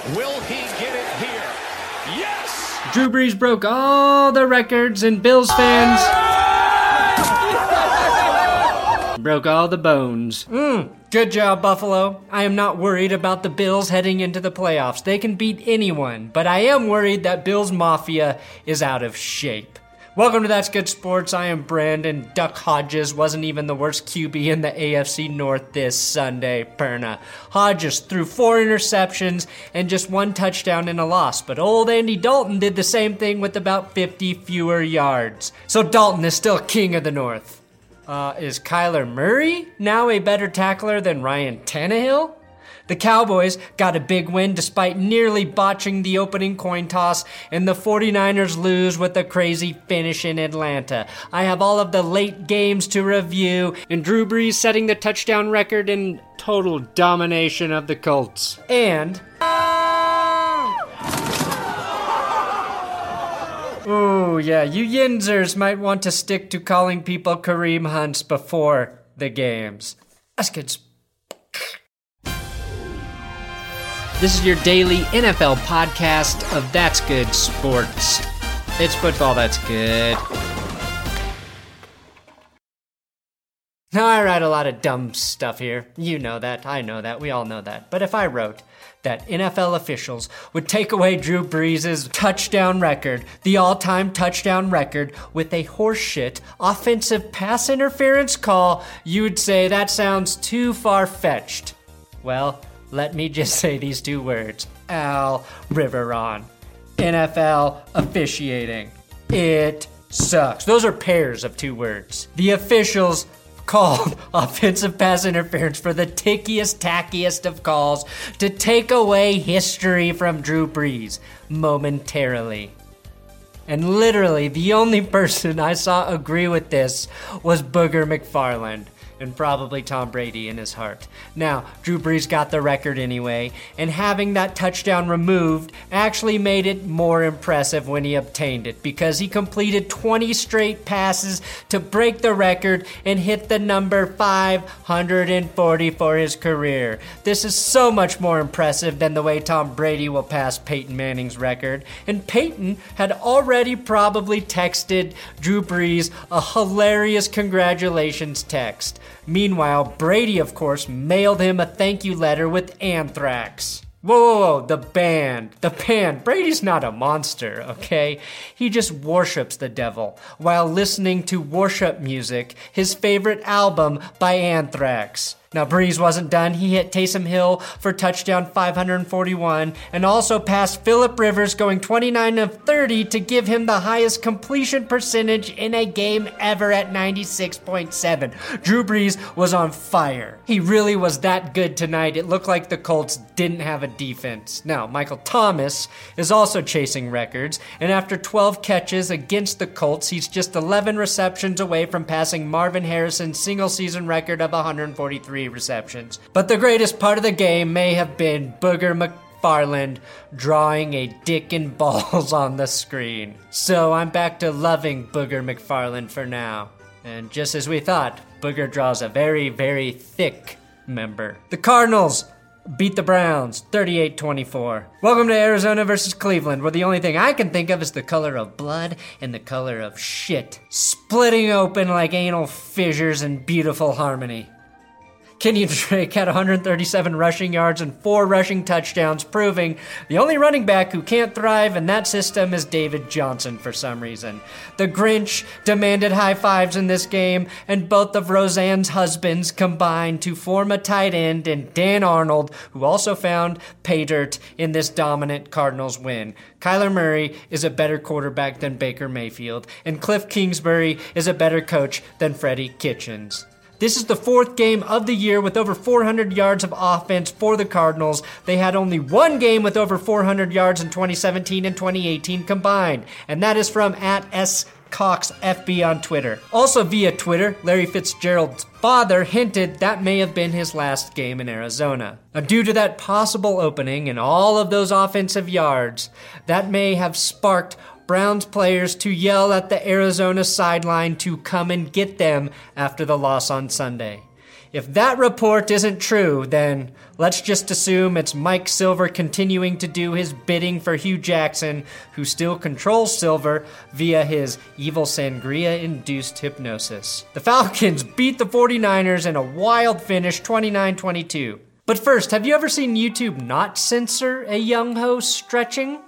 Will he get it here? Yes! Drew Brees broke all the records, and Bills fans broke all the bones. Good job, Buffalo. I am not worried about the Bills heading into the playoffs. They can beat anyone, but I am worried that Bills Mafia is out of shape. Welcome to That's Good Sports. I am Brandon. Duck Hodges wasn't even the worst QB in the AFC North this Sunday, Perna. Hodges threw 4 interceptions and just 1 touchdown in a loss, but old Andy Dalton did the same thing with about 50 fewer yards. So Dalton is still king of the North. Is Kyler Murray now a better tackler than Ryan Tannehill? The Cowboys got a big win despite nearly botching the opening coin toss, and the 49ers lose with a crazy finish in Atlanta. I have all of the late games to review, and Drew Brees setting the touchdown record in total domination of the Colts. And oh yeah, you Yinzers might want to stick to calling people Kareem Hunts before the games. That's good. This is your daily NFL podcast of That's Good Sports. It's football that's good. Now, I write a lot of dumb stuff here. You know that, I know that, we all know that. But if I wrote that NFL officials would take away Drew Brees' touchdown record, the all-time touchdown record, with a horseshit offensive pass interference call, you would say that sounds too far-fetched. Well, let me just say these 2 words. Al Riveron. NFL officiating. It sucks. Those are pairs of 2 words. The officials called offensive pass interference for the tickiest, tackiest of calls to take away history from Drew Brees momentarily. And literally, the only person I saw agree with this was Booger McFarland. And probably Tom Brady in his heart. Now, Drew Brees got the record anyway, and having that touchdown removed actually made it more impressive when he obtained it, because he completed 20 straight passes to break the record and hit the number 540 for his career. This is so much more impressive than the way Tom Brady will pass Peyton Manning's record, and Peyton had already probably texted Drew Brees a hilarious congratulations text. Meanwhile, Brady, of course, mailed him a thank you letter with anthrax. Whoa, the band. Brady's not a monster, okay? He just worships the devil while listening to worship music, his favorite album by Anthrax. Now, Brees wasn't done. He hit Taysom Hill for touchdown 541 and also passed Phillip Rivers, going 29 of 30 to give him the highest completion percentage in a game ever at 96.7. Drew Brees was on fire. He really was that good tonight. It looked like the Colts didn't have a defense. Now, Michael Thomas is also chasing records, and after 12 catches against the Colts, he's just 11 receptions away from passing Marvin Harrison's single-season record of 143 receptions. But the greatest part of the game may have been Booger McFarland drawing a dick and balls on the screen. So I'm back to loving Booger McFarland for now. And just as we thought, Booger draws a very, very thick member. The Cardinals beat the Browns 38-24. Welcome to Arizona versus Cleveland, where the only thing I can think of is the color of blood and the color of shit splitting open like anal fissures in beautiful harmony. Kenyon Drake had 137 rushing yards and 4 rushing touchdowns, proving the only running back who can't thrive in that system is David Johnson for some reason. The Grinch demanded high fives in this game, and both of Roseanne's husbands combined to form a tight end in Dan Arnold, who also found pay dirt in this dominant Cardinals win. Kyler Murray is a better quarterback than Baker Mayfield, and Cliff Kingsbury is a better coach than Freddie Kitchens. This is the 4th game of the year with over 400 yards of offense for the Cardinals. They had only 1 game with over 400 yards in 2017 and 2018 combined, and that is from @SCoxFB on Twitter. Also via Twitter, Larry Fitzgerald's father hinted that may have been his last game in Arizona. Now, due to that possible opening and all of those offensive yards, that may have sparked Browns players to yell at the Arizona sideline to come and get them after the loss on Sunday. If that report isn't true, then let's just assume it's Mike Silver continuing to do his bidding for Hugh Jackson, who still controls Silver via his evil sangria-induced hypnosis. The Falcons beat the 49ers in a wild finish, 29-22. But first, have you ever seen YouTube not censor a young ho stretching?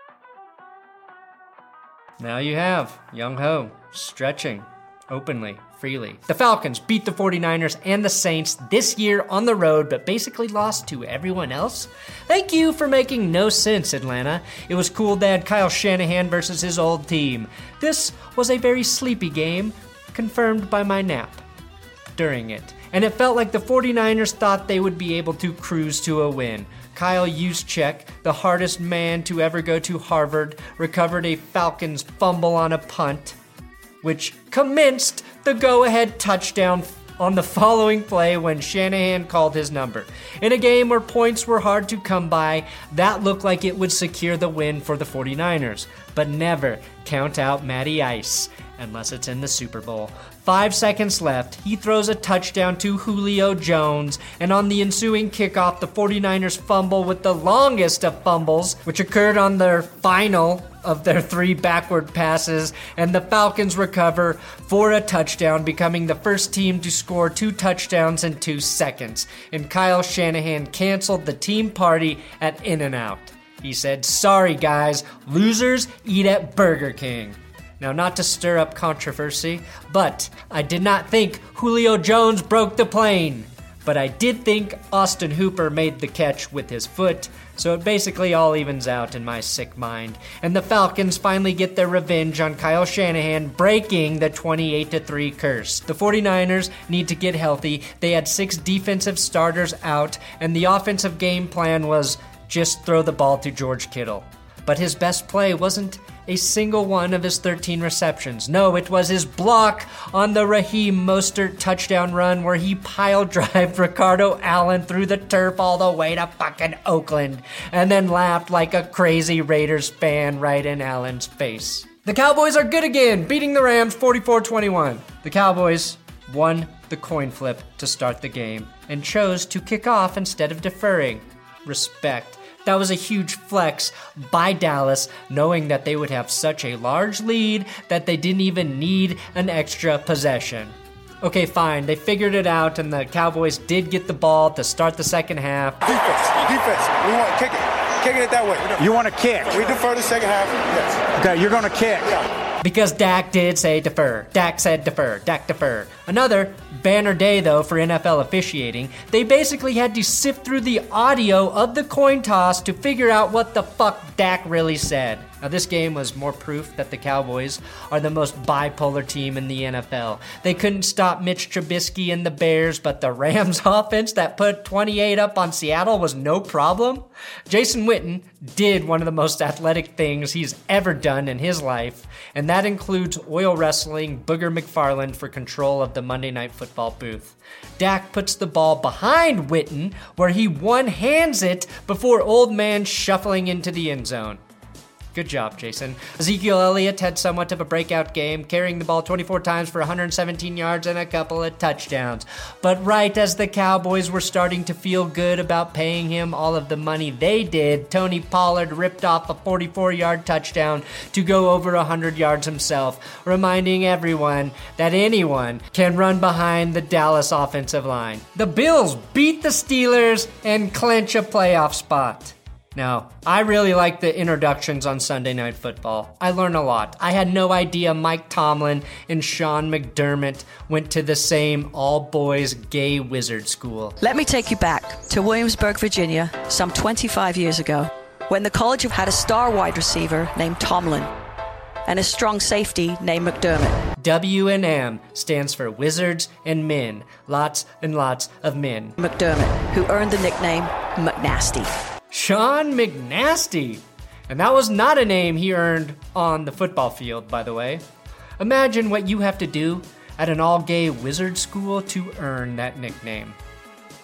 Now you have. Young ho stretching openly, freely. The Falcons beat the 49ers and the Saints this year on the road, but basically lost to everyone else. Thank you for making no sense, Atlanta. It was cool they had Kyle Shanahan versus his old team. This was a very sleepy game, confirmed by my nap during it. And it felt like the 49ers thought they would be able to cruise to a win. Kyle Juszczyk, the hardest man to ever go to Harvard, recovered a Falcons fumble on a punt, which commenced the go-ahead touchdown on the following play when Shanahan called his number. In a game where points were hard to come by, that looked like it would secure the win for the 49ers. But never count out Matty Ice unless it's in the Super Bowl. 5 seconds left, he throws a touchdown to Julio Jones, and on the ensuing kickoff, the 49ers fumble with the longest of fumbles, which occurred on their final of their 3 backward passes, and the Falcons recover for a touchdown, becoming the first team to score 2 touchdowns in 2 seconds. And Kyle Shanahan canceled the team party at In-N-Out. He said, "Sorry guys, losers eat at Burger King." Now, not to stir up controversy, but I did not think Julio Jones broke the plane. But I did think Austin Hooper made the catch with his foot, so it basically all evens out in my sick mind. And the Falcons finally get their revenge on Kyle Shanahan, breaking the 28-3 curse. The 49ers need to get healthy. They had 6 defensive starters out, and the offensive game plan was just throw the ball to George Kittle. But his best play wasn't a single one of his 13 receptions. No, it was his block on the Raheem Mostert touchdown run where he pile-drived Ricardo Allen through the turf all the way to fucking Oakland and then laughed like a crazy Raiders fan right in Allen's face. The Cowboys are good again, beating the Rams 44-21. The Cowboys won the coin flip to start the game and chose to kick off instead of deferring. Respect. That was a huge flex by Dallas, knowing that they would have such a large lead that they didn't even need an extra possession. Okay, fine, they figured it out, and the Cowboys did get the ball to start the second half. Defense, we want to kick it. Kicking it that way. You want to kick? We defer the second half, yes. Okay, you're going to kick. Yeah. Because Dak did say defer. Dak said defer. Dak deferred. Another banner day, though, for NFL officiating. They basically had to sift through the audio of the coin toss to figure out what the fuck Dak really said. Now, this game was more proof that the Cowboys are the most bipolar team in the NFL. They couldn't stop Mitch Trubisky and the Bears, but the Rams offense that put 28 up on Seattle was no problem. Jason Witten did one of the most athletic things he's ever done in his life, and that includes oil wrestling Booger McFarland for control of the Monday Night Football booth. Dak puts the ball behind Witten, where he one-hands it before Old Man shuffling into the end zone. Good job, Jason. Ezekiel Elliott had somewhat of a breakout game, carrying the ball 24 times for 117 yards and a couple of touchdowns. But right as the Cowboys were starting to feel good about paying him all of the money they did, Tony Pollard ripped off a 44-yard touchdown to go over 100 yards himself, reminding everyone that anyone can run behind the Dallas offensive line. The Bills beat the Steelers and clinch a playoff spot. Now, I really like the introductions on Sunday Night Football. I learn a lot. I had no idea Mike Tomlin and Sean McDermott went to the same all-boys gay wizard school. Let me take you back to Williamsburg, Virginia, some 25 years ago, when the college had a star wide receiver named Tomlin and a strong safety named McDermott. W&M stands for Wizards and Men. Lots and lots of men. McDermott, who earned the nickname McNasty. Sean McNasty. And that was not a name he earned on the football field, by the way. Imagine what you have to do at an all-gay wizard school to earn that nickname.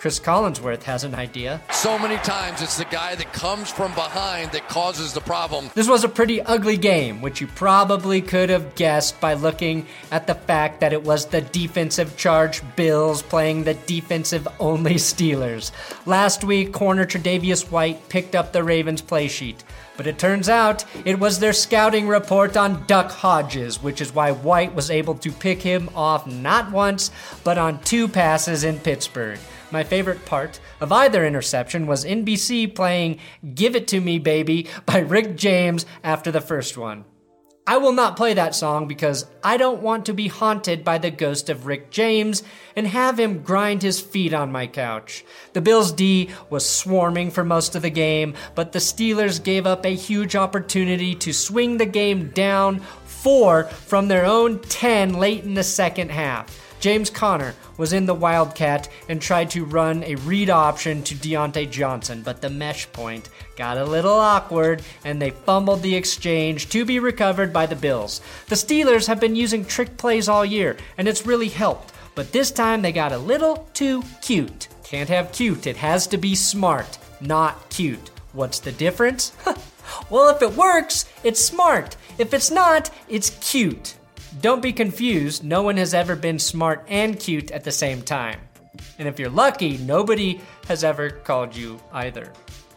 Chris Collinsworth has an idea. So many times it's the guy that comes from behind that causes the problem. This was a pretty ugly game, which you probably could have guessed by looking at the fact that it was the defensive charged Bills playing the defensive-only Steelers. Last week, corner Tre'Davious White picked up the Ravens play sheet. But it turns out it was their scouting report on Duck Hodges, which is why White was able to pick him off not once, but on 2 passes in Pittsburgh. My favorite part of either interception was NBC playing Give It To Me Baby by Rick James after the first one. I will not play that song because I don't want to be haunted by the ghost of Rick James and have him grind his feet on my couch. The Bills' D was swarming for most of the game, but the Steelers gave up a huge opportunity to swing the game down 4 from their own 10 late in the second half. James Conner was in the Wildcat and tried to run a read option to Deontay Johnson, but the mesh point got a little awkward and they fumbled the exchange to be recovered by the Bills. The Steelers have been using trick plays all year and it's really helped, but this time they got a little too cute. Can't have cute, it has to be smart, not cute. What's the difference? Well, if it works, it's smart. If it's not, it's cute. Don't be confused, no one has ever been smart and cute at the same time. And if you're lucky, nobody has ever called you either.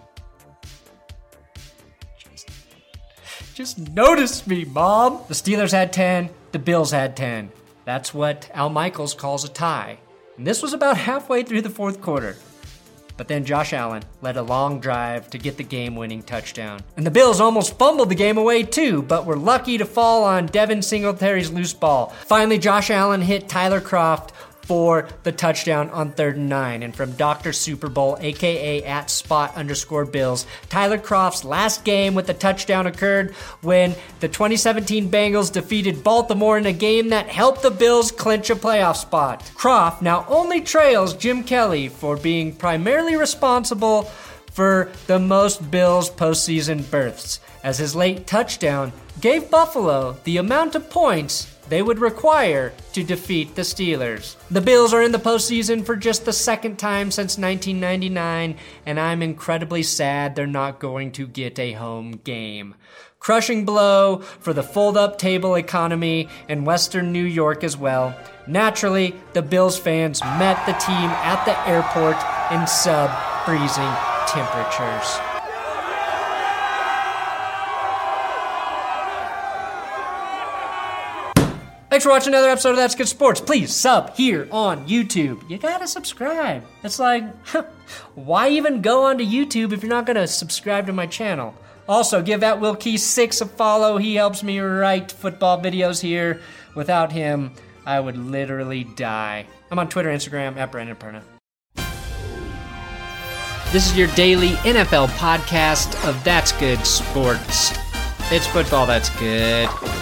Just notice me, Mom! The Steelers had 10, the Bills had 10. That's what Al Michaels calls a tie. And this was about halfway through the fourth quarter. But then Josh Allen led a long drive to get the game-winning touchdown. And the Bills almost fumbled the game away too, but were lucky to fall on Devin Singletary's loose ball. Finally, Josh Allen hit Tyler Kroft for the touchdown on 3rd and 9. And from Dr. Super Bowl, aka @spot_Bills, Tyler Kroft's last game with the touchdown occurred when the 2017 Bengals defeated Baltimore in a game that helped the Bills clinch a playoff spot. Kroft now only trails Jim Kelly for being primarily responsible for the most Bills postseason berths, as his late touchdown gave Buffalo the amount of points they would require to defeat the Steelers. The Bills are in the postseason for just the second time since 1999, and I'm incredibly sad they're not going to get a home game. Crushing blow for the fold-up table economy in Western New York as well. Naturally, the Bills fans met the team at the airport in sub-freezing temperatures. Thanks for watching another episode of That's Good Sports. Please sub here on YouTube. You gotta subscribe. It's like, why even go onto YouTube if you're not gonna subscribe to my channel? Also, give @WillKey6 a follow. He helps me write football videos here. Without him, I would literally die. I'm on Twitter and Instagram @BrandonPerna. This is your daily NFL podcast of That's Good Sports. It's football that's good.